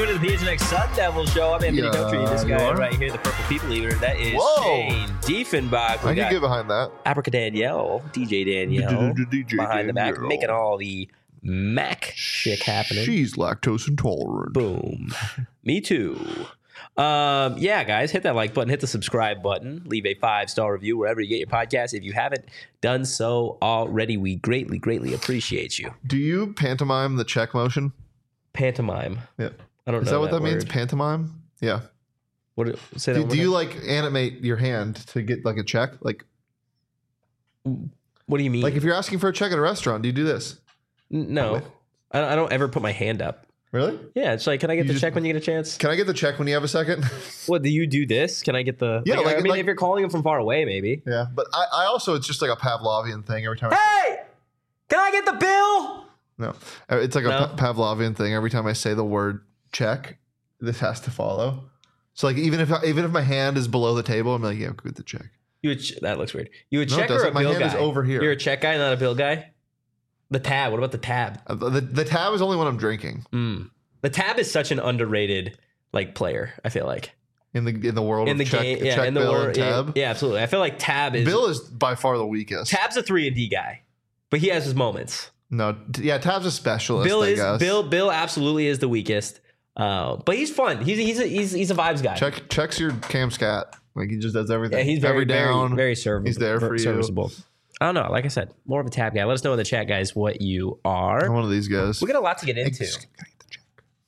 tuning in to the PHNX Sun Devil Show. I'm Anthony Country. This guy right here, the Purple People Eater, that is Shane Diefenbach. I can get behind that. Aprica Danielle, DJ Danielle, behind the back, making all the Mac shit happening. She's lactose intolerant. Boom. Me too. Yeah, guys, hit that like button, hit the subscribe button, leave a 5-star review wherever you get your podcast. If you haven't done so already, we greatly, greatly appreciate you. Do you pantomime the check motion? Pantomime. Yeah. I don't know. Is that what that word means? Pantomime? Yeah. What? Say that. Do you like animate your hand to get like a check? Like, what do you mean? Like if you're asking for a check at a restaurant, do you do this? No, I don't ever put my hand up. Really? Yeah, it's like, can I get the check when you get a chance? Can I get the check when you have a second? What, do you do this? Can I get the... Yeah, I mean, if you're calling him from far away, maybe. Yeah, but I also, it's just like a Pavlovian thing every time. Hey! Can I get the bill? No. It's like a Pavlovian thing. Every time I say the word check, this has to follow. So like even if my hand is below the table, I'm like, yeah, go get the check. That looks weird. You a check or a bill guy? My hand is over here. You're a check guy, not a bill guy? The tab. What about the tab? The tab is only when I'm drinking. The tab is such an underrated player, I feel like. In the world of check, game, yeah, check, in the bill, world, and tab. Yeah, absolutely. I feel like Bill is by far the weakest. Tab's a 3-and-D guy, but he has his moments. No, yeah, Tab's a specialist. Bill absolutely is the weakest, but he's fun. He's a vibes guy. Checks your cam scat. Like he just does everything. Yeah, he's very down, very serviceable. He's there for serviceable. I don't know. Like I said, more of a tab guy. Let us know in the chat, guys, what you are. I'm one of these guys. We got a lot to get into. Can I get the check?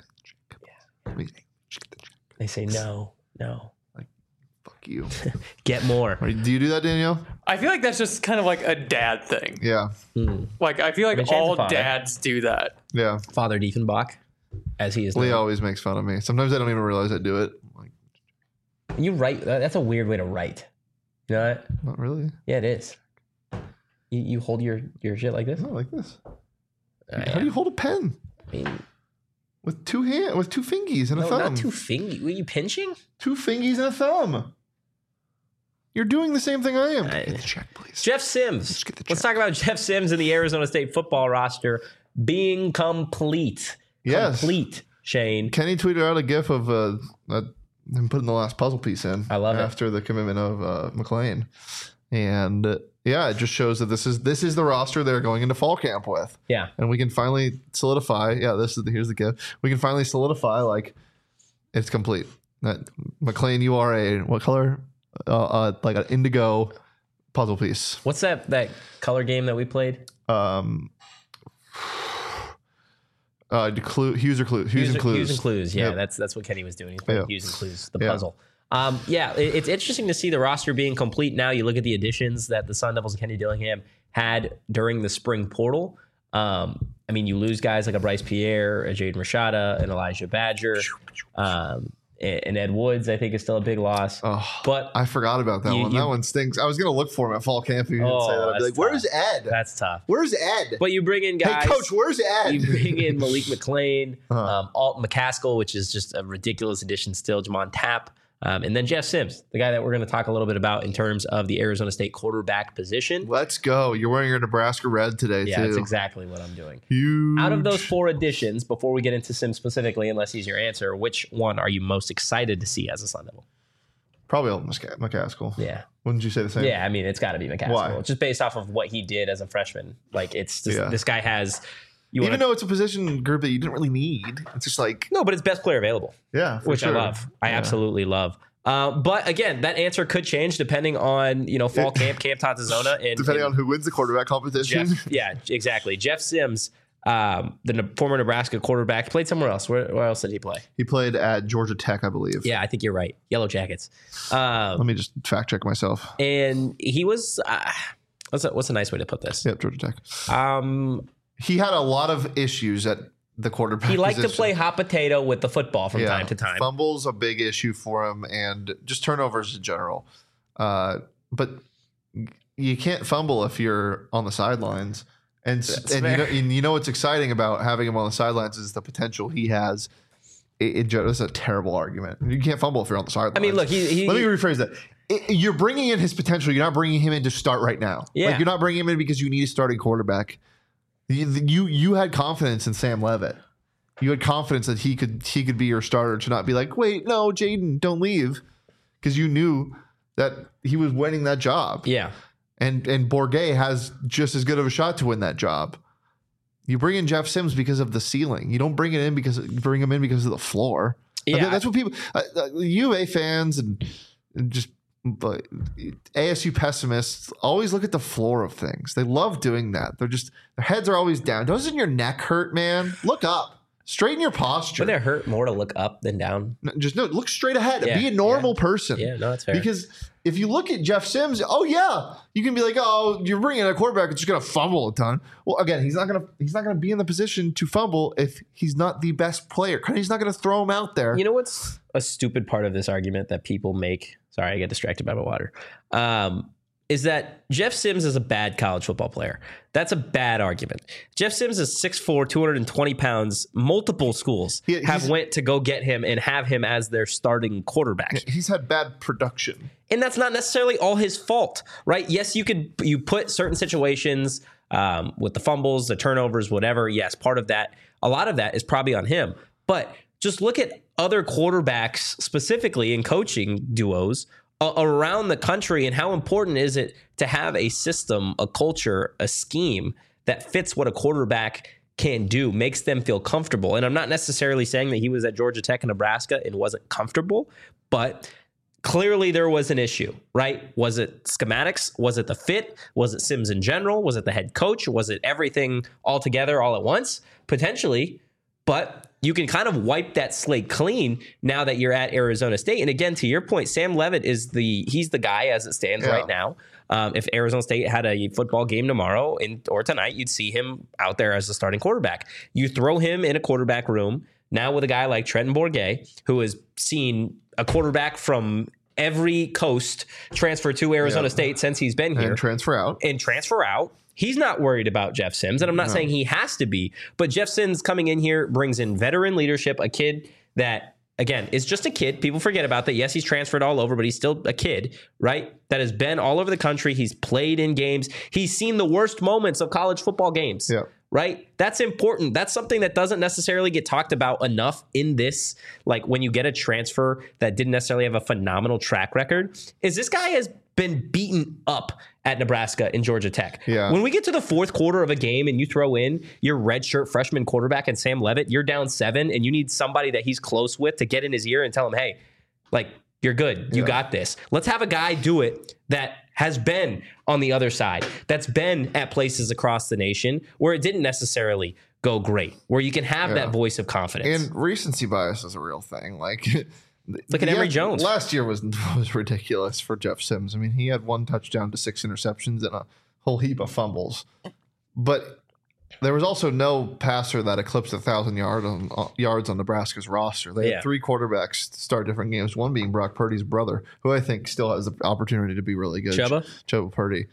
They say no. Like, fuck you. Get more. Do you do that, Danielle? I feel like that's just kind of like a dad thing. Yeah. Like I feel like all dads do that. Yeah. Father Diefenbach, as he is. Lee always makes fun of me. Sometimes I don't even realize I do it. Like, you write. That's a weird way to write. You know that? Not really. Yeah, it is. You hold your shit like this? No, like this. How do you hold a pen? I mean, with two fingies and a thumb. Not two fingies. Were you pinching? 2 fingies and a thumb. You're doing the same thing I am. Get the check, please. Jeff Sims. Let's talk about Jeff Sims and the Arizona State football roster being complete. Yes. Complete, Shane. Kenny tweeted out a gif of him putting the last puzzle piece in. I love it. After the commitment of McLean. And yeah, it just shows that this is the roster they're going into fall camp with. Yeah. And we can finally solidify. Yeah, here's the gift. We can finally solidify like it's complete. That McLean, you are what color? Like an indigo puzzle piece. What's that color game that we played? Hues or Clues. Hues and Clues. Hues and Clues. Yeah, Yep. that's what Kenny was doing. He's playing Hues and Clues, the puzzle. It's interesting to see the roster being complete now. You look at the additions that the Sun Devils and Kenny Dillingham had during the spring portal. I mean, you lose guys like a Bryce Pierre, a Jaden Rashada, an Elijah Badger, and Ed Woods, I think, is still a big loss. Oh, but I forgot about that one. That one stinks. I was going to look for him at fall camp. If you didn't say that, I'd be like, "Where's Ed? That's tough. Where's Ed?" But you bring in guys. Hey, coach, where's Ed? You bring in Malik McLean, Alton McCaskill, which is just a ridiculous addition still. Jamon Tapp. And then Jeff Sims, the guy that we're going to talk a little bit about in terms of the Arizona State quarterback position. Let's go. You're wearing your Nebraska red today, too. Yeah, that's exactly what I'm doing. Huge. Out of those 4 additions, before we get into Sims specifically, unless he's your answer, which one are you most excited to see as a Sun Devil? Probably Alton McCaskill. Yeah. Wouldn't you say the same? Yeah, I mean, it's got to be McCaskill. Why? Just based off of what he did as a freshman. Like, it's just, this guy has... Even though it's a position group that you didn't really need. It's just like... No, but it's best player available. Yeah, which I love. I absolutely love. But again, that answer could change depending on fall camp Tantazona, and depending on who wins the quarterback competition. Yeah, exactly. Jeff Sims, the former Nebraska quarterback, played somewhere else. Where else did he play? He played at Georgia Tech, I believe. Yeah, I think you're right. Yellow Jackets. Let me just fact check myself. And he was what's a nice way to put this? Yep, Georgia Tech. He had a lot of issues at the quarterback. He liked to play hot potato with the football from time to time. Fumbles a big issue for him, and just turnovers in general. But you can't fumble if you're on the sidelines. And you know what's exciting about having him on the sidelines is the potential he has. It's a terrible argument. You can't fumble if you're on the sidelines. I mean, look, let me rephrase that. You're bringing in his potential. You're not bringing him in to start right now. Yeah. Like, you're not bringing him in because you need a starting quarterback. You had confidence in Sam Leavitt. You had confidence that he could be your starter, to not be like, wait, no, Jaden, don't leave, because you knew that he was winning that job. Yeah. And Bourguet has just as good of a shot to win that job. You bring in Jeff Sims because of the ceiling. You don't bring him in because of the floor. Yeah. That's what people, U of A fans and just ASU pessimists always look at the floor of things. They love doing that. Their heads are always down. Doesn't your neck hurt, man? Look up. Straighten your posture. Would it hurt more to look up than down? Look straight ahead. Yeah, be a normal person. Yeah, no, that's fair. Because if you look at Jeff Sims, you can be like, oh, you're bringing in a quarterback that's just going to fumble a ton. Well, again, he's not going to be in the position to fumble if he's not the best player. He's not going to throw him out there. You know what's a stupid part of this argument that people make? Sorry, I get distracted by my water. Is that Jeff Sims is a bad college football player. That's a bad argument. Jeff Sims is 6'4", 220 pounds. Multiple schools have went to go get him and have him as their starting quarterback. He's had bad production. And that's not necessarily all his fault, right? Yes, you put certain situations with the fumbles, the turnovers, whatever. Yes, part of that, a lot of that is probably on him. But just look at other quarterbacks, specifically in coaching duos, around the country, and how important is it to have a system, a culture, a scheme that fits what a quarterback can do, makes them feel comfortable. And I'm not necessarily saying that he was at Georgia Tech and Nebraska and wasn't comfortable, but clearly there was an issue, right? Was it schematics? Was it the fit? Was it Sims in general? Was it the head coach? Was it everything all together all at once? Potentially, but you can kind of wipe that slate clean now that you're at Arizona State. And again, to your point, Sam Leavitt he's the guy as it stands right now. If Arizona State had a football game tomorrow or tonight, you'd see him out there as the starting quarterback. You throw him in a quarterback room now with a guy like Trenton Bourguet, who has seen a quarterback from every coast transfer to Arizona State since he's been here. And transfer out. He's not worried about Jeff Sims, and I'm not saying he has to be, but Jeff Sims coming in here brings in veteran leadership, a kid that, again, is just a kid. People forget about that. Yes, he's transferred all over, but he's still a kid, right? That has been all over the country. He's played in games. He's seen the worst moments of college football games, right? That's important. That's something that doesn't necessarily get talked about enough in this. Like when you get a transfer that didn't necessarily have a phenomenal track record, is this guy has been beaten up at Nebraska and Georgia Tech. Yeah. When we get to the fourth quarter of a game and you throw in your redshirt freshman quarterback and Sam Leavitt, you're down 7 and you need somebody that he's close with to get in his ear and tell him, hey, like, you're good. You got this. Let's have a guy do it that has been on the other side, that's been at places across the nation where it didn't necessarily go great, where you can have that voice of confidence. And recency bias is a real thing. Like, look at Emory Jones. Last year was ridiculous for Jeff Sims. I mean, he had 1 touchdown to 6 interceptions and a whole heap of fumbles. But there was also no passer that eclipsed 1,000 yards on Nebraska's roster. They had 3 quarterbacks start different games, one being Brock Purdy's brother, who I think still has the opportunity to be really good. Chubba Purdy.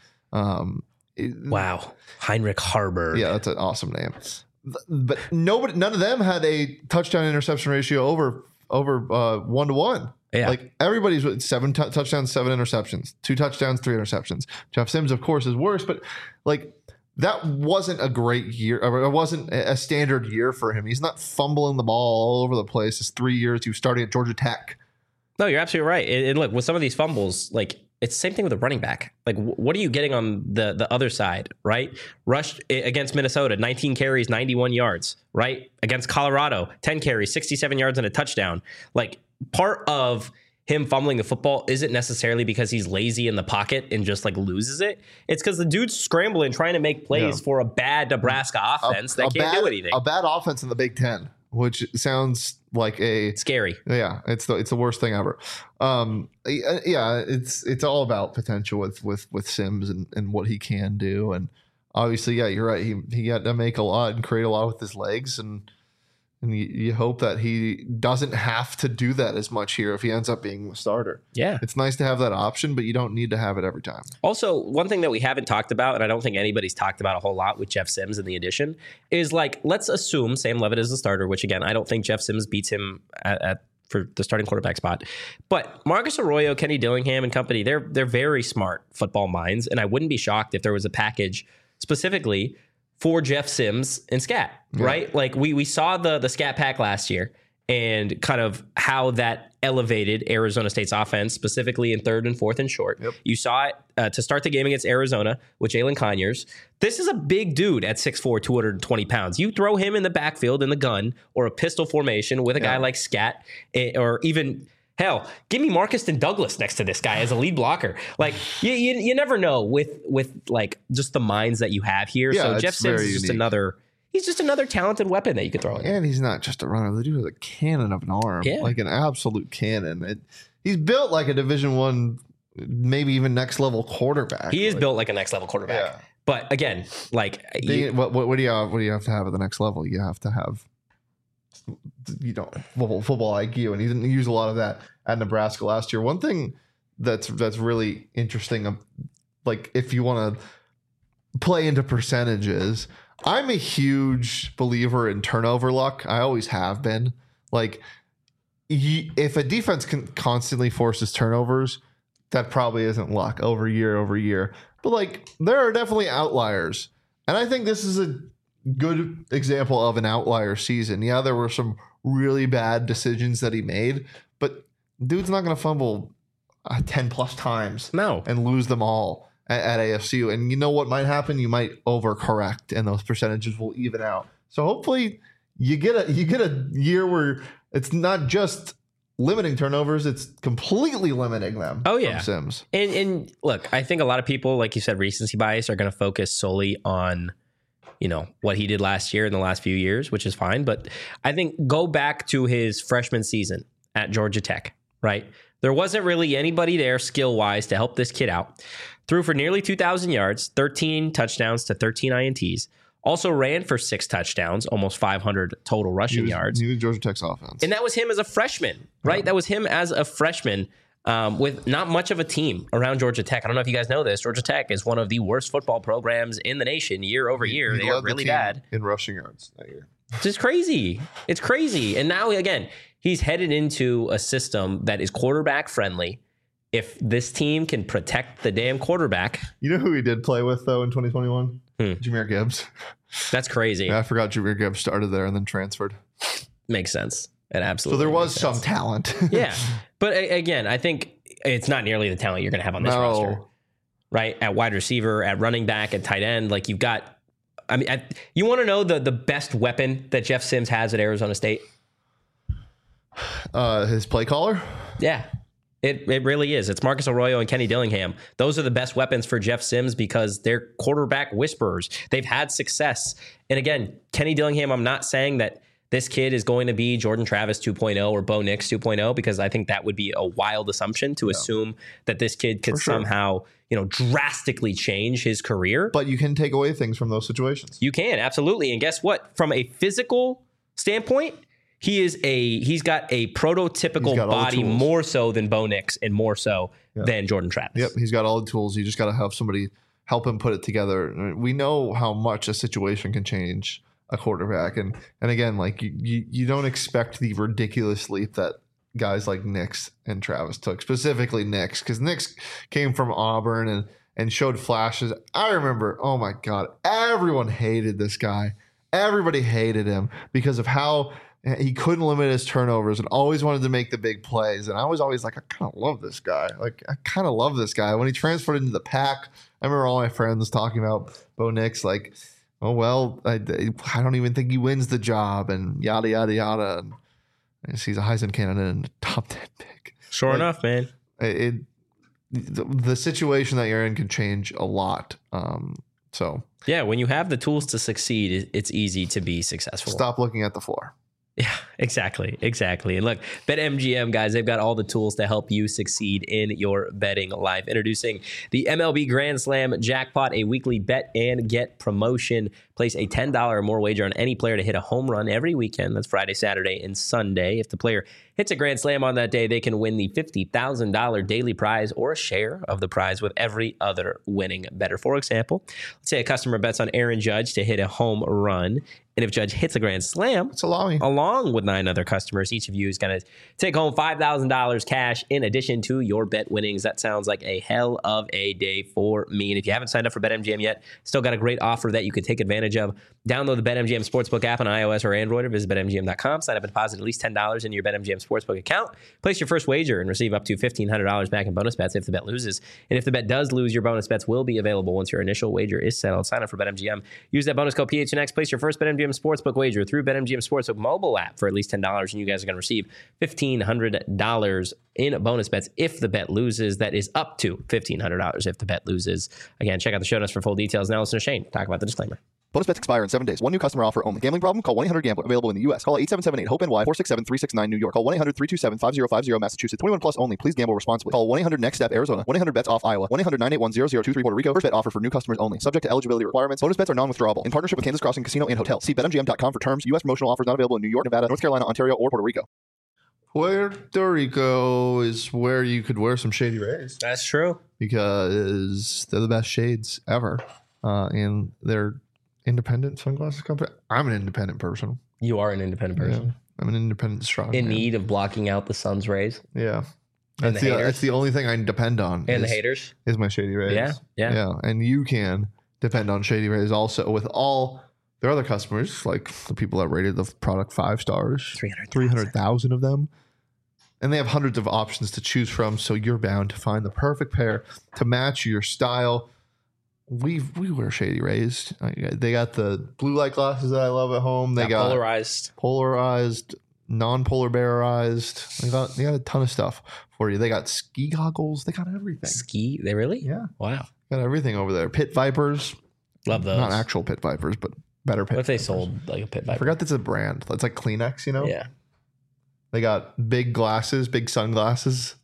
Wow. Heinrich Haarberg. Yeah, that's an awesome name. But none of them had a touchdown interception ratio over 1-to-1. Yeah. Like everybody's with 7 touchdowns, 7 interceptions, 2 touchdowns, 3 interceptions. Jeff Sims, of course, is worse, but like that wasn't a great year. Or it wasn't a standard year for him. He's not fumbling the ball all over the place. It's 3 years. He was starting at Georgia Tech. No, you're absolutely right. And look, with some of these fumbles, like it's the same thing with a running back. Like, what are you getting on the other side, right? Rushed against Minnesota, 19 carries, 91 yards, right? Against Colorado, 10 carries, 67 yards and a touchdown. Like, part of him fumbling the football isn't necessarily because he's lazy in the pocket and just like loses it. It's because the dude's scrambling, trying to make plays for a bad Nebraska offense that can't do anything. A bad offense in the Big Ten, which sounds like scary. Yeah, it's the worst thing ever. It's all about potential with Sims and what he can do. And obviously, yeah, you're right. He had to make a lot and create a lot with his legs, and you hope that he doesn't have to do that as much here if he ends up being the starter. Yeah. It's nice to have that option, but you don't need to have it every time. Also, one thing that we haven't talked about, and I don't think anybody's talked about a whole lot with Jeff Sims in the addition, is like, let's assume Sam Leavitt is the starter, which again, I don't think Jeff Sims beats him for the starting quarterback spot. But Marcus Arroyo, Kenny Dillingham and company, they're very smart football minds, and I wouldn't be shocked if there was a package specifically for Jeff Sims and Scat, right? Like we saw the Scat Pack last year and kind of how that elevated Arizona State's offense, specifically in third and fourth and short. Yep. You saw it to start the game against Arizona with Jalen Conyers. This is a big dude at 6'4", 220 pounds. You throw him in the backfield in the gun or a pistol formation with a guy like Scat, or even, hell, give me Marcus and Douglas next to this guy as a lead blocker. Like, you never know with like just the minds that you have here. Yeah, so Jeff Sims is just another... He's just another talented weapon that you could throw in. And he's not just a runner. The dude has a cannon of an arm, like an absolute cannon. He's built like a Division I, maybe even next level quarterback. He is built like a next level quarterback. Yeah. But again, like what do you have to have at the next level? You have to have football IQ, and he didn't use a lot of that at Nebraska last year. One thing that's really interesting, like if you want to play into percentages. I'm a huge believer in turnover luck. I always have been. Like, if a defense constantly forces turnovers, that probably isn't luck over year. But, like, there are definitely outliers. And I think this is a good example of an outlier season. Yeah, there were some really bad decisions that he made, but dude's not going to fumble 10-plus times and lose them all at ASU. And you know what might happen? You might overcorrect and those percentages will even out. So hopefully you get a year where it's not just limiting turnovers, it's completely limiting them. Oh yeah. From Sims. And look, I think a lot of people, like you said, recency bias, are going to focus solely on, what he did last year in the last few years, which is fine. But I think go back to his freshman season at Georgia Tech, right? There wasn't really anybody there skill-wise to help this kid out. Threw for nearly 2,000 yards, 13 touchdowns to 13 INTs. Also ran for 6 touchdowns, almost 500 total rushing yards. He was Georgia Tech's offense. And that was him as a freshman, right? Yeah. That was him as a freshman with not much of a team around Georgia Tech. I don't know if you guys know this. Georgia Tech is one of the worst football programs in the nation year over year. They are really bad. In rushing yards that year. It's just crazy. It's crazy. And now, again, he's headed into a system that is quarterback friendly. If this team can protect the damn quarterback. You know who he did play with, though, in 2021? Jahmyr Gibbs. That's crazy. Yeah, I forgot Jahmyr Gibbs started there and then transferred. Makes sense. It absolutely. So there was some talent. Yeah. But again, I think it's not nearly the talent you're going to have on this roster. Right? At wide receiver, at running back, at tight end. Like, you've got... I mean, you want to know the best weapon that Jeff Sims has at Arizona State? His play caller? Yeah. It really is. It's Marcus Arroyo and Kenny Dillingham. Those are the best weapons for Jeff Sims because they're quarterback whisperers. They've had success. And again, Kenny Dillingham, I'm not saying that this kid is going to be Jordan Travis 2.0 or Bo Nix 2.0 because I think that would be a wild assumption to assume that this kid could somehow, drastically change his career. But you can take away things from those situations. You can, absolutely. And guess what? From a physical standpoint, he's got a prototypical body more so than Bo Nix and more so than Jordan Travis. Yep, he's got all the tools. You just got to have somebody help him put it together. We know how much a situation can change a quarterback, and again, like you don't expect the ridiculous leap that guys like Nix and Travis took, specifically Nix, because Nix came from Auburn and showed flashes. I remember, oh my God, everyone hated this guy. Everybody hated him because of how he couldn't limit his turnovers and always wanted to make the big plays. And I was always like, I kind of love this guy. When he transferred into the Pack, I remember all my friends talking about Bo Nix, like, oh, well, I don't even think he wins the job and yada, yada, yada. And he's a Heisman candidate and a top 10 pick. Sure enough, man. The situation that you're in can change a lot. Yeah, when you have the tools to succeed, it's easy to be successful. Stop looking at the floor. Yeah, exactly. And look, BetMGM, guys, they've got all the tools to help you succeed in your betting life. Introducing the MLB Grand Slam Jackpot, a weekly bet and get promotion. Place a $10 or more wager on any player to hit a home run every weekend. That's Friday, Saturday, and Sunday. If the player hits a grand slam on that day, they can win the $50,000 daily prize or a share of the prize with every other winning bettor. For example, let's say a customer bets on Aaron Judge to hit a home run And if Judge hits a grand slam, along with 9 other customers, each of you is going to take home $5,000 cash in addition to your bet winnings. That sounds like a hell of a day for me. And if you haven't signed up for BetMGM yet, still got a great offer that you could take advantage of. Download the BetMGM Sportsbook app on iOS or Android, or visit BetMGM.com. Sign up and deposit at least $10 into your BetMGM Sportsbook account. Place your first wager and receive up to $1,500 back in bonus bets if the bet loses. And if the bet does lose, your bonus bets will be available once your initial wager is settled. Sign up for BetMGM. Use that bonus code PHNX. Place your first BetMGM Sportsbook wager through BetMGM Sportsbook mobile app for at least $10, and you guys are going to receive $1,500 in bonus bets if the bet loses. That is up to $1,500 if the bet loses. Again, check out the show notes for full details. Now listen to Shane talk about the disclaimer. Bonus bets expire in 7 days. One new customer offer only. Gambling problem? Call 1-800-GAMBLER. Available in the U.S. Call 877-8-HOPE-NY 467-369 New York. Call 1-800-327-5050 Massachusetts. 21 plus only. Please gamble responsibly. Call 1-800-NEXT-STEP Arizona. 1-800-BETS-OFF Iowa. 1-800-981-0023 Puerto Rico. First bet offer for new customers only. Subject to eligibility requirements. Bonus bets are non-withdrawable. In partnership with Kansas Crossing Casino and Hotel. See BetMGM.com for terms. U.S. promotional offers not available in New York, Nevada, North Carolina, Ontario, or Puerto Rico. Puerto Rico is where you could wear some Shady Rays. That's true. Because they're the best shades ever. And they're independent sunglasses company. I'm an independent person. You are an independent person. Yeah. I'm an independent strong in man. Need of blocking out the sun's rays. Yeah. That's the only thing I depend on. And the haters? Is my Shady Rays. Yeah. And you can depend on Shady Rays also with all their other customers, like the people that rated the product 5 stars. 300,000 of them. And they have hundreds of options to choose from, so you're bound to find the perfect pair to match your style. We wear Shady Rays. They got the blue light glasses that I love at home. They got polarized, non-polar bearized. They got a ton of stuff for you. They got ski goggles. They got everything. Ski? They really? Yeah. Wow. Got everything over there. Pit vipers. Love those. Not actual pit vipers, but better pit. What if they sold like a pit viper? I forgot that's a brand. It's like Kleenex, you know? Yeah. They got big glasses, big sunglasses.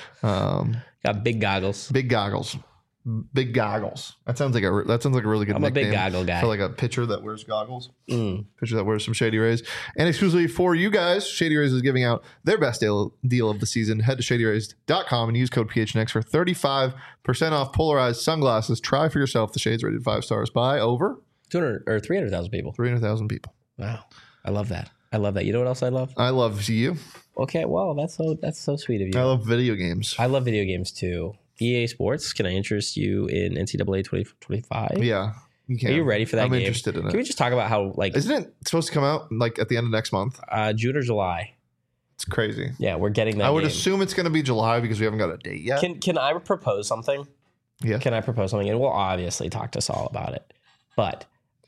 Got big goggles. Big goggles. Big goggles. That sounds like a really good nickname. I'm a big goggle guy. For like a pitcher that wears goggles. Pitcher that wears some Shady Rays. And exclusively for you guys, Shady Rays is giving out their best deal of the season. Head to shadyrays.com and use code PHNX for 35% off polarized sunglasses. Try for yourself the shades rated 5 stars by over 200 or 300,000 people. 300,000 people. Wow. I love that. You know what else I love? I love you. Okay, well, that's so sweet of you. I love video games. I love video games too. EA Sports, can I interest you in NCAA 2025? Yeah, you can. Are you ready for that game? I'm interested in it. Can we just talk about how, like... Isn't it supposed to come out, like, at the end of next month? June or July. It's crazy. Yeah, we're getting that I would assume it's going to be July because we haven't got a date yet. Can I propose something? Yeah. Can I propose something? And we'll obviously talk to Saul about it. But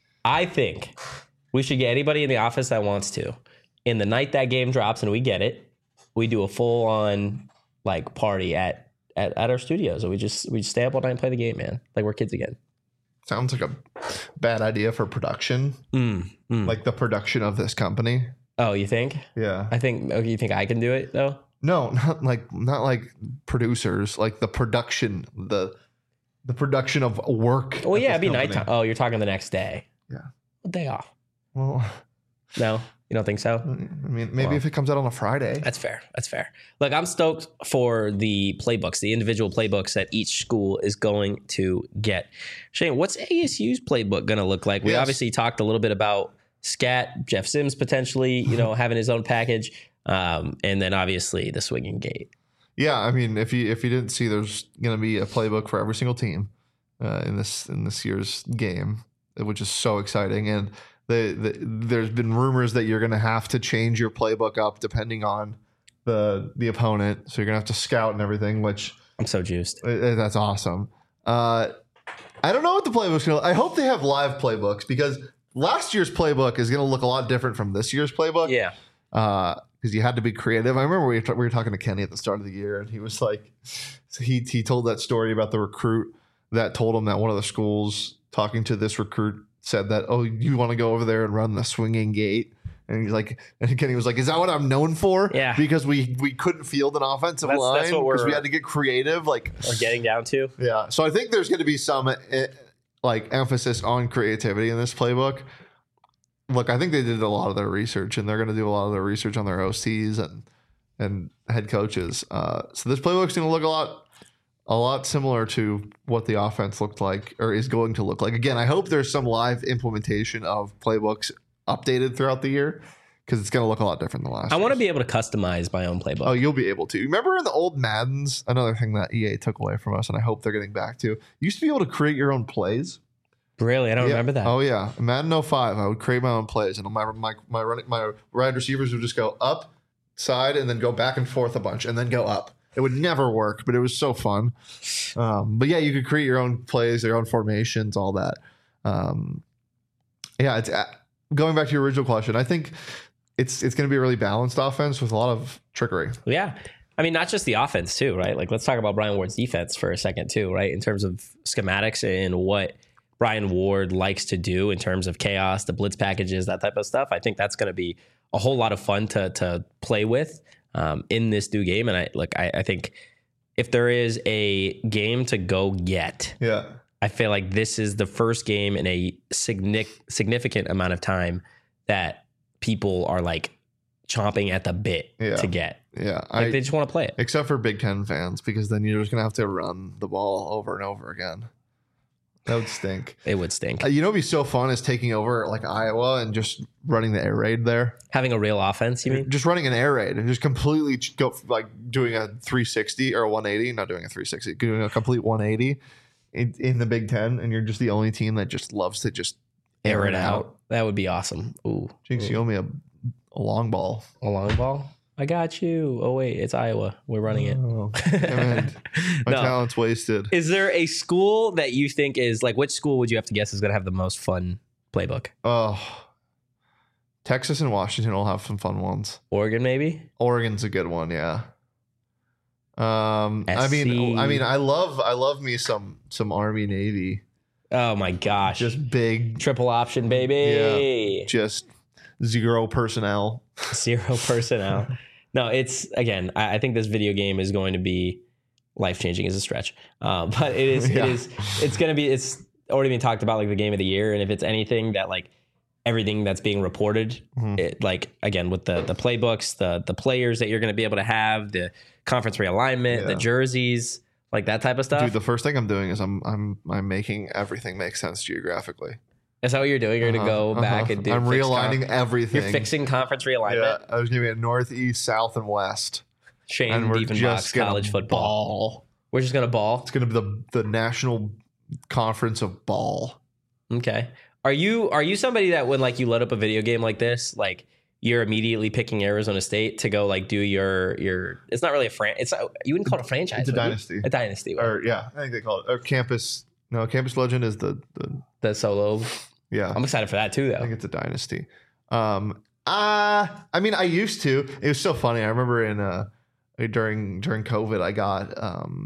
I think we should get anybody in the office that wants to. In the night that game drops and we get it, we do a full-on, like, party at our studios, and we just stay up all night and play the game, man. Like we're kids again. Sounds like a bad idea for production. Like the production of this company. Oh, you think? Yeah. I think. Okay, you think I can do it though? No, not like producers. Like the production, the production of work. Oh yeah, it'd be nighttime. Oh, you're talking the next day. Yeah. A day off. Well. No. You don't think so? I mean, maybe if it comes out on a Friday. That's fair. Look, I'm stoked for the playbooks, the individual playbooks that each school is going to get. Shane, what's ASU's playbook going to look like? We obviously talked a little bit about Scat, Jeff Sims potentially, having his own package, and then obviously the swinging gate. Yeah, I mean, if you didn't see, there's going to be a playbook for every single team in this year's game, which is so exciting. And there's been rumors that you're going to have to change your playbook up depending on the opponent. So you're going to have to scout and everything, which I'm so juiced. That's awesome. I don't know what the playbook's going to look. I hope they have live playbooks because last year's playbook is going to look a lot different from this year's playbook. Yeah. Because you had to be creative. I remember we were talking to Kenny at the start of the year, and he was like, he told that story about the recruit that told him that one of the schools talking to this recruit said that, oh, you want to go over there and run the swinging gate? And he's like, and Kenny was like, is that what I'm known for? Yeah. Because we couldn't field an offensive line because we had to get creative. Like we're getting down to. Yeah. So I think there's going to be some like emphasis on creativity in this playbook. Look, I think they did a lot of their research, and they're going to do a lot of their research on their OCs and head coaches. So this playbook's going to look a lot similar to what the offense looked like or is going to look like. Again, I hope there's some live implementation of playbooks updated throughout the year because it's going to look a lot different than last. I want to be able to customize my own playbook. Oh, you'll be able to. Remember in the old Maddens, another thing that EA took away from us, and I hope they're getting back to. You used to be able to create your own plays. Really? I don't remember that. Oh yeah, Madden 05, I would create my own plays, and my wide receivers would just go up, side, and then go back and forth a bunch, and then go up. It would never work, but it was so fun. But yeah, you could create your own plays, your own formations, all that. Yeah, it's going back to your original question. I think it's going to be a really balanced offense with a lot of trickery. Yeah. I mean, not just the offense too, right? Like, let's talk about Brian Ward's defense for a second too, right? In terms of schematics and what Brian Ward likes to do in terms of chaos, the blitz packages, that type of stuff. I think that's going to be a whole lot of fun to play with in this new game. And I think if there is a game to go get, I feel like this is the first game in a significant amount of time that people are like chomping at the bit to get. Yeah. Like they just want to play it. Except for Big Ten fans, because then you're just going to have to run the ball over and over again. That would stink. It would stink. You know, what'd be so fun is taking over like Iowa and just running the air raid there. Having a real offense, you mean? Just running an air raid and just completely go like doing a 360 or a 180, not doing a 360, doing a complete 180 in the Big Ten, and you're just the only team that just loves to just air it out. That would be awesome. Ooh, Jinx, you owe me a long ball. A long ball? I got you. Oh, wait, it's Iowa. We're running it. Oh, my talent's wasted. Is there a school that you think is like, which school would you have to guess is going to have the most fun playbook? Oh, Texas and Washington will have some fun ones. Oregon, maybe? Oregon's a good one, yeah. I mean, I love me some Army Navy. Oh my gosh. Just big triple option, baby. Yeah. Just zero personnel. Zero personnel. No, it's again, I think this video game is going to be life-changing is a stretch. But it's going to be, it's already been talked about like the game of the year. And if it's anything that like everything that's being reported, it, like, again, with the playbooks, the players that you're going to be able to have, the conference realignment, the jerseys, like that type of stuff. Dude, the first thing I'm doing is I'm making everything make sense geographically. Is that what you're doing? You're going to go back and do... I'm realigning everything. You're fixing conference realignment? Yeah, I was going to be at northeast, south, and west. Shane Diefenbach's college football. Ball. We're just going to ball? It's going to be the national conference of ball. Okay. Are you somebody that when like you load up a video game like this, like you're immediately picking Arizona State to go like do your it's not really a you wouldn't call it a franchise. It's a dynasty. A dynasty. Or yeah, I think they call it. Or Campus. No, Campus Legend is the solo. Yeah. I'm excited for that too, though. I think it's a dynasty. I mean, I used to. It was so funny. I remember during COVID, I got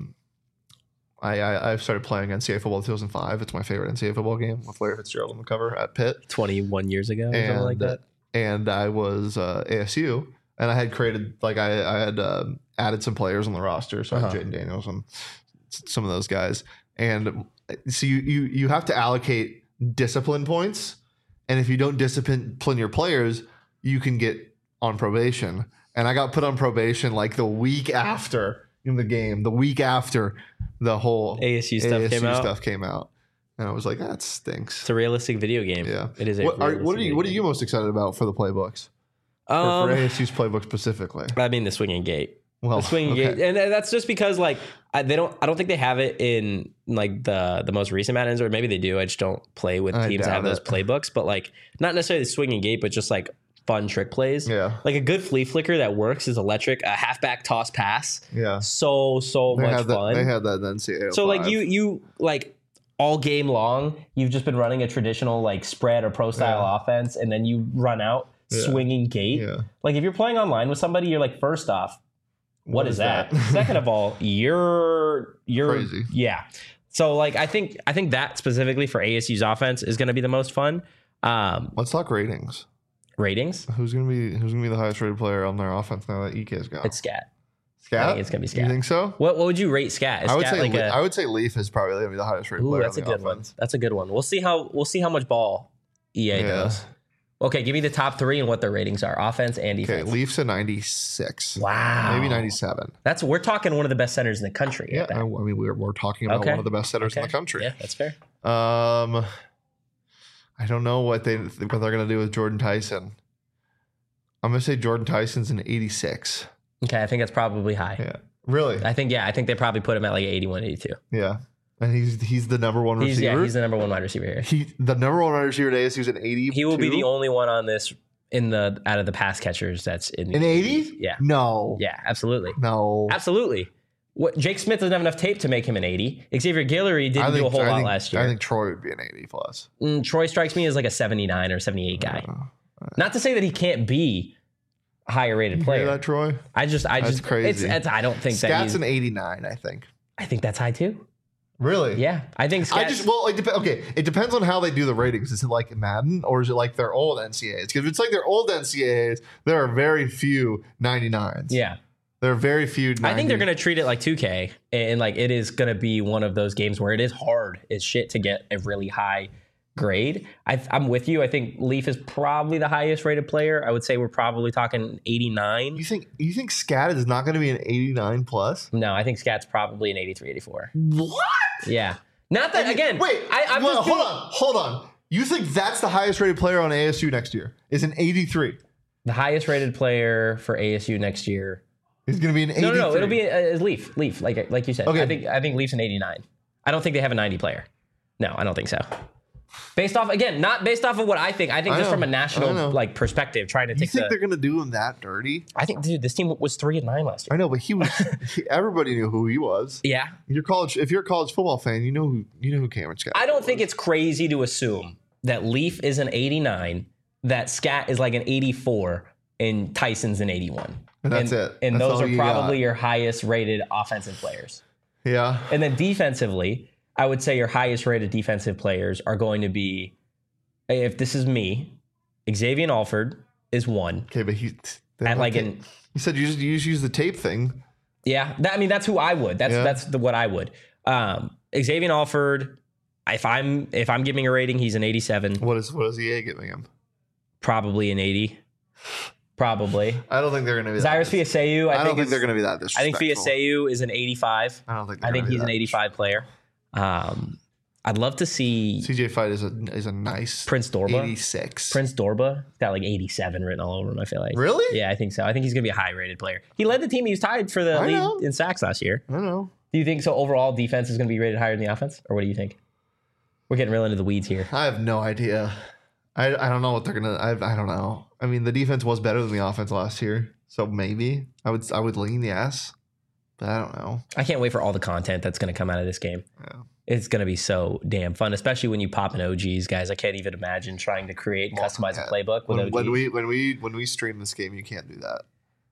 I started playing NCAA football in 2005. It's my favorite NCAA football game with Larry Fitzgerald on the cover at Pitt. 21 years ago, or something like that. And I was ASU, and I had created like I had added some players on the roster, so I had Jaden Daniels and some of those guys. And so you have to allocate discipline points, and if you don't discipline your players, you can get on probation. And I got put on probation like the week after in the game, the week after the whole ASU stuff came out, and I was like, that stinks. It's a realistic video game. Yeah, it is. What are you most excited about for the playbooks? For ASU's playbook specifically, I mean the swinging gate. Well, the swinging gate, and that's just because like I don't think they have it in like the most recent Maddens, or maybe they do. I just don't play with teams that have those playbooks, but like not necessarily the swinging gate, but just like fun trick plays. Yeah, like a good flea flicker that works is electric. A halfback toss pass. Yeah, so much fun. They had that in NCAA. So like you like all game long, you've just been running a traditional like spread or pro style offense, and then you run out swinging gate. Yeah. Like if you're playing online with somebody, you're like, first off, what is that? Second of all, you're crazy. Yeah. So like I think that specifically for ASU's offense is going to be the most fun. Let's talk ratings. Ratings? Who's gonna be the highest rated player on their offense now that EK's got? It's Scat. Scat? I think it's gonna be Scat. You think so? What would you rate Scat? I would say Leaf is probably gonna be the highest rated player. That's on a the good offense. one. That's a good one. We'll see how much ball EA does. Okay, give me the top three and what their ratings are, offense and defense. Okay, Leafs a 96. Wow, maybe 97. We're talking one of the best centers in the country. Yeah, I mean we're talking about one of the best centers in the country. Yeah, that's fair. I I don't know what they're going to do with Jordan Tyson. I'm going to say Jordan Tyson's an 86. Okay, I think that's probably high. Yeah. Really? I think they probably put him at like 81, 82. Yeah. And he's the number one receiver. He's the number one wide receiver here. The number one wide receiver at ASU is an 80. He will be the only one on this out of the pass catchers that's in an 80. Yeah. No. Yeah, absolutely. No. Absolutely. What Jake Smith doesn't have enough tape to make him an 80. Xavier Guillory didn't do a whole lot last year. I think Troy would be an 80 plus. Troy strikes me as like a 79 or 78 guy. Not to say that he can't be a higher rated player. You hear that, Troy? That's crazy. I don't think Scat's an 89. I think. I think that's high too. Really? Yeah, I think Scat. It depends on how they do the ratings. Is it like Madden or is it like their old NCAAs? Because if it's like their old NCAAs, there are very few 99s. Yeah. There are very few 90s. I think they're going to treat it like 2K, and like it is going to be one of those games where it is hard as shit to get a really high grade. I'm with you. I think Leaf is probably the highest rated player. I would say we're probably talking 89. You think Scat is not going to be an 89 plus? No, I think Scat's probably an 83, 84. What? Yeah. Not that, again. Wait, hold on. You think that's the highest rated player on ASU next year? Is an 83? The highest rated player for ASU next year is going to be an 83. No, it'll be a Leaf, like you said. Okay. I think Leaf's an 89. I don't think they have a 90 player. No, I don't think so. Based off, again, not based off of what I think. I think just from a national perspective, trying to take. You think they're going to do him that dirty? I think, dude, this team was 3-9 last year. I know, but he was. Everybody knew who he was. Yeah. If you're a college football fan, you know who Cameron Scott. I don't think it's crazy to assume that Leaf is an 89, that Scat is like an 84, and Tyson's an 81. And that's it. And those are probably your highest rated offensive players. Yeah. And then defensively, I would say your highest rated defensive players are going to be, if this is me, Xavier Alford is 1. Okay, but you said you just use the tape thing. Yeah, that's who I would. That's what I would. Xavier Alford, if I'm giving a rating, he's an 87. What is EA giving him? Probably an 80. Probably. I don't think they're going to be Cyrus Fiaseu. I don't think they're going to be that disrespectful. I think Fiaseu is an 85. I think he's an 85 player. I'd love to see CJ Fight is a nice Prince Dorba. 86. Prince Dorba got like 87 written all over him, I feel like. Really? Yeah, I think so. I think he's going to be a high rated player. He led the team. He was tied for the lead in sacks last year. I know. Do you think so? Overall, defense is going to be rated higher than the offense, or what do you think? We're getting real into the weeds here. I have no idea. I don't know what they're gonna. I don't know. I mean, the defense was better than the offense last year, so maybe I would lean yes, but I don't know. I can't wait for all the content that's going to come out of this game. Yeah. It's going to be so damn fun, especially when you pop in OGs, guys. I can't even imagine trying to create and customize a playbook with OGs. When we stream this game, you can't do that.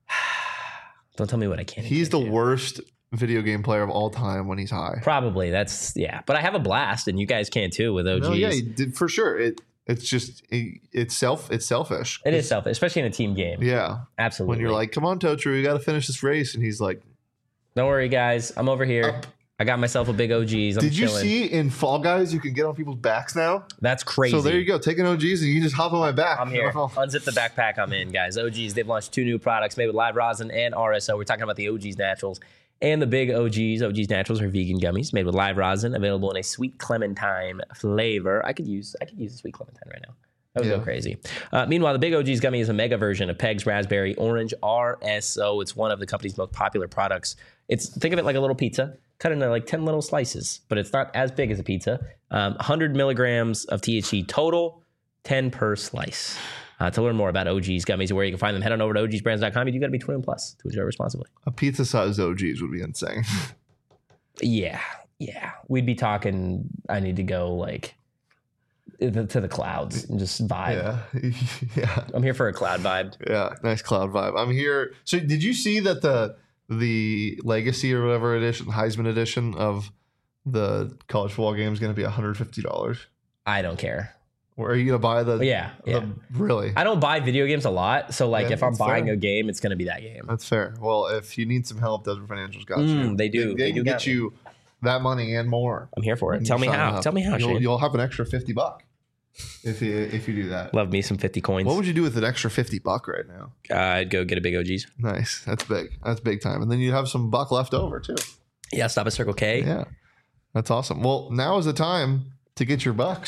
Don't tell me what I can't. He's the worst video game player of all time when he's high. Probably. But I have a blast, and you guys can too with OGs. No, yeah, for sure. It's just it's selfish. It is selfish, especially in a team game. Yeah, absolutely. When you're like, "Come on, Totri, we got to finish this race," and he's like, "Don't worry, guys, I'm over here. I got myself a big OGs. Did you see in Fall Guys you can get on people's backs now? That's crazy. So there you go. Take an OGs and you can just hop on my back. I'm here. Unzip the backpack. I'm in, guys. OGs. They've launched 2 new products made with live rosin and RSO. We're talking about the OGs Naturals and the big OGs. OGs Naturals are vegan gummies made with live rosin, available in a sweet clementine flavor. I could use a sweet clementine right now. That would go crazy. Meanwhile, the Big OG's Gummy is a mega version of Peg's Raspberry Orange RSO. It's one of the company's most popular products. Think of it like a little pizza, cut into like 10 little slices, but it's not as big as a pizza. 100 milligrams of THC total, 10 per slice. To learn more about OG's Gummies and where you can find them, head on over to ogsbrands.com. You got to be 21 plus to enjoy responsibly. A pizza-sized OG's would be insane. Yeah. We'd be talking, I need to go like to the clouds and just vibe. Yeah. I'm here for a cloud vibe. Yeah, nice cloud vibe. I'm here. So did you see that the Legacy or whatever edition, Heisman edition of the college football game is going to be $150? I don't care. Or are you going to buy the... Yeah. Really? I don't buy video games a lot. So like if I'm buying a game, it's going to be that game. That's fair. Well, if you need some help, Desert Financial's got you. They do. They can get you that money and more. I'm here for it. Tell me how. Shane. You'll have an extra $50 if you do that. Love me some 50 coins. What would you do with an extra $50 right now? I'd go get a big OGs. Nice. That's big. That's big time. And then you have some buck left over too. Yeah. Stop at Circle K. Yeah. That's awesome. Well, now is the time to get your bucks.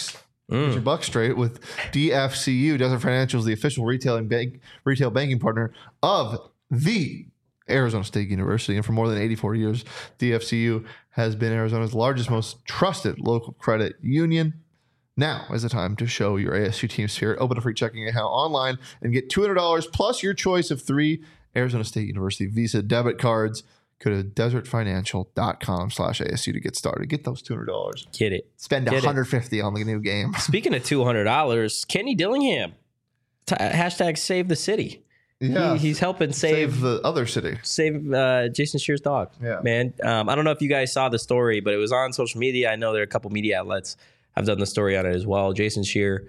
Get your buck straight with DFCU. Desert Financial is the official retail banking partner of the Arizona State University. And for more than 84 years, DFCU has been Arizona's largest, most trusted local credit union. Now is the time to show your ASU team spirit. Open a free checking account online and get $200 plus your choice of 3 Arizona State University Visa debit cards. Go to desertfinancial.com/ASU to get started. Get those $200. Get it. Spend $150 on the new game. Speaking of $200, Kenny Dillingham. Hashtag save the city. Yeah, he's helping save the other city. Save Jason Scheer's dog. Yeah, man. I don't know if you guys saw the story, but it was on social media. I know there are a couple media outlets have done the story on it as well. Jason Scheer.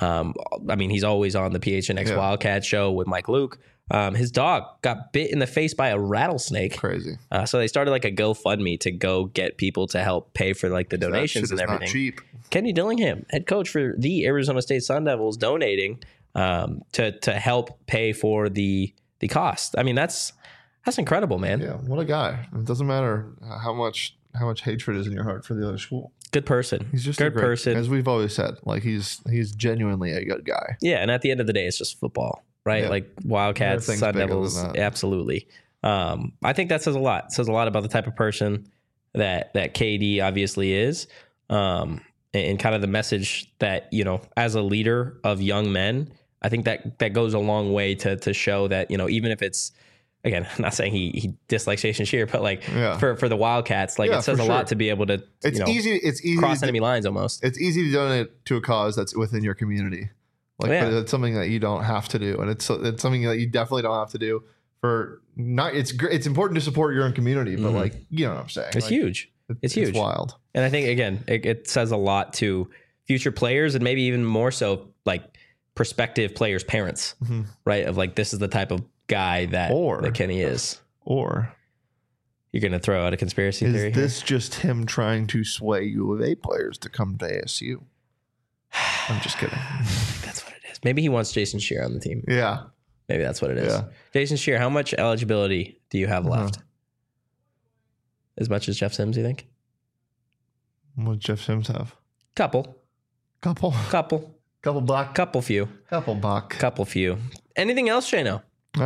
He's always on the PHNX Wildcat show with Mike Luke. His dog got bit in the face by a rattlesnake. Crazy. So they started like a GoFundMe to go get people to help pay for like the donations and everything. Not cheap. Kenny Dillingham, head coach for the Arizona State Sun Devils, donating to help pay for the cost. I mean, that's incredible, man. Yeah, what a guy. It doesn't matter how much hatred is in your heart for the other school. Good person. He's just good person. As we've always said, like he's genuinely a good guy. Yeah, and at the end of the day, it's just football, right? Yeah. Like Wildcats, Sun Devils, absolutely. I think that says a lot. It says a lot about the type of person that KD obviously is, and kind of the message that, you know, as a leader of young men, I think that goes a long way to show that, you know, even if it's, again, I'm not saying he dislikes Jason Scheer, but like for the Wildcats, like it says a lot to be able to it's easy cross enemy lines almost. It's easy to donate to a cause that's within your community. Like but it's something that you don't have to do. And it's something that you definitely don't have to do for not it's important to support your own community, but like, you know what I'm saying? It's like, huge. It's huge. It's wild. And I think again, it says a lot to future players and maybe even more so like prospective players' parents, right? Of like, this is the type of guy that Kenny is. Or you're going to throw out a conspiracy theory? Is this just him trying to sway U of A players to come to ASU? I'm just kidding. That's what it is. Maybe he wants Jason Scheer on the team. Yeah. Maybe that's what it is. Yeah. Jason Scheer, how much eligibility do you have left? As much as Jeff Sims, you think? What does Jeff Sims have? Couple buck. Couple few. Couple buck. Couple few. Anything else, Shano?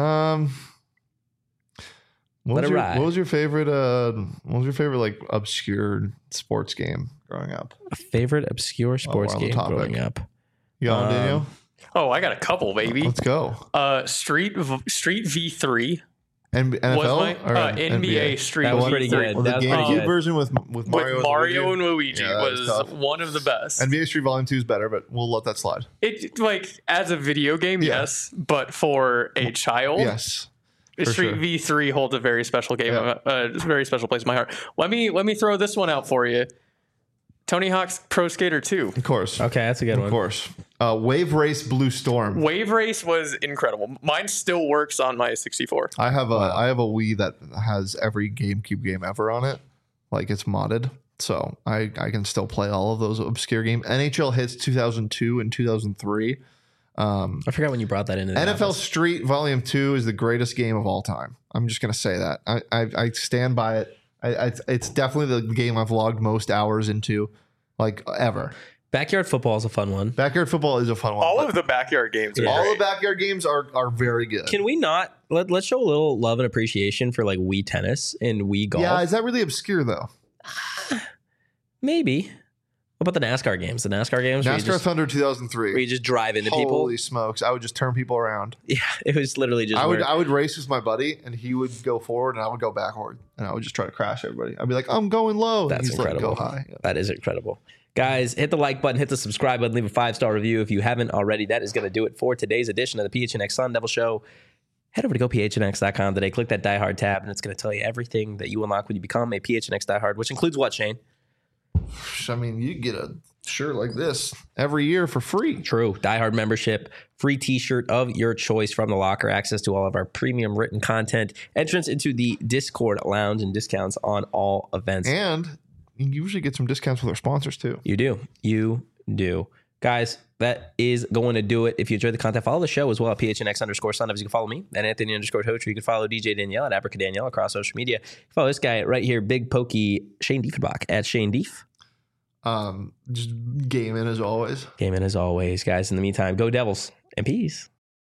What was your favorite like obscure sports game growing up? A favorite obscure sports game growing up. You got one, Daniel? Oh, I got a couple, baby. Let's go. Street V3. NFL or NBA Street that was pretty good. Well, the GameCube version with Mario and Luigi was one of the best. NBA Street Volume 2 is better, but we'll let that slide. It like as a video game, yes, but for a child, yes. Street V3 holds a very special game, a very special place in my heart. Let me throw this one out for you. Tony Hawk's Pro Skater 2. Of course. Okay, that's a good one. Of course. Wave Race Blue Storm. Wave Race was incredible. Mine still works on my 64. I have a Wii that has every GameCube game ever on it. Like it's modded. So I can still play all of those obscure games. NHL Hits 2002 and 2003. I forgot when you brought that into the NFL Street Volume 2 is the greatest game of all time. I'm just going to say that. I stand by it. It's definitely the game I've logged most hours into, like ever. Backyard football is a fun one. Backyard football is a fun one. All of the backyard games are all great. the backyard games are very good. Can we not let's show a little love and appreciation for like Wii tennis and Wii golf? Yeah, is that really obscure though? Maybe. What about the NASCAR games? NASCAR Thunder 2003. Where you just drive into people. Holy smokes! I would just turn people around. Yeah, it was literally just. I would race with my buddy, and he would go forward, and I would go backward, and I would just try to crash everybody. I'd be like, "I'm going low." That's incredible. Like, go high. That is incredible, guys. Hit the like button, hit the subscribe button, leave a 5-star review if you haven't already. That is going to do it for today's edition of the PHNX Sun Devil Show. Head over to gophnx.com today. Click that Die Hard tab, and it's going to tell you everything that you unlock when you become a PHNX Die Hard, which includes what, Shane? I mean, you get a shirt like this every year for free. True. Die Hard membership, free t-shirt of your choice from the locker, access to all of our premium written content, entrance into the Discord lounge, and discounts on all events. And you usually get some discounts with our sponsors too. You do. Guys, that is going to do it. If you enjoyed the content, follow the show as well at PHNX_Sun. You can follow me at Anthony_Hoach. You can follow DJ Danielle at Abrica Danielle across social media. Follow this guy right here, Big Pokey Shane Diefenbach at Shane Dief. Just game in as always. Game in as always, guys. In the meantime, go Devils and peace.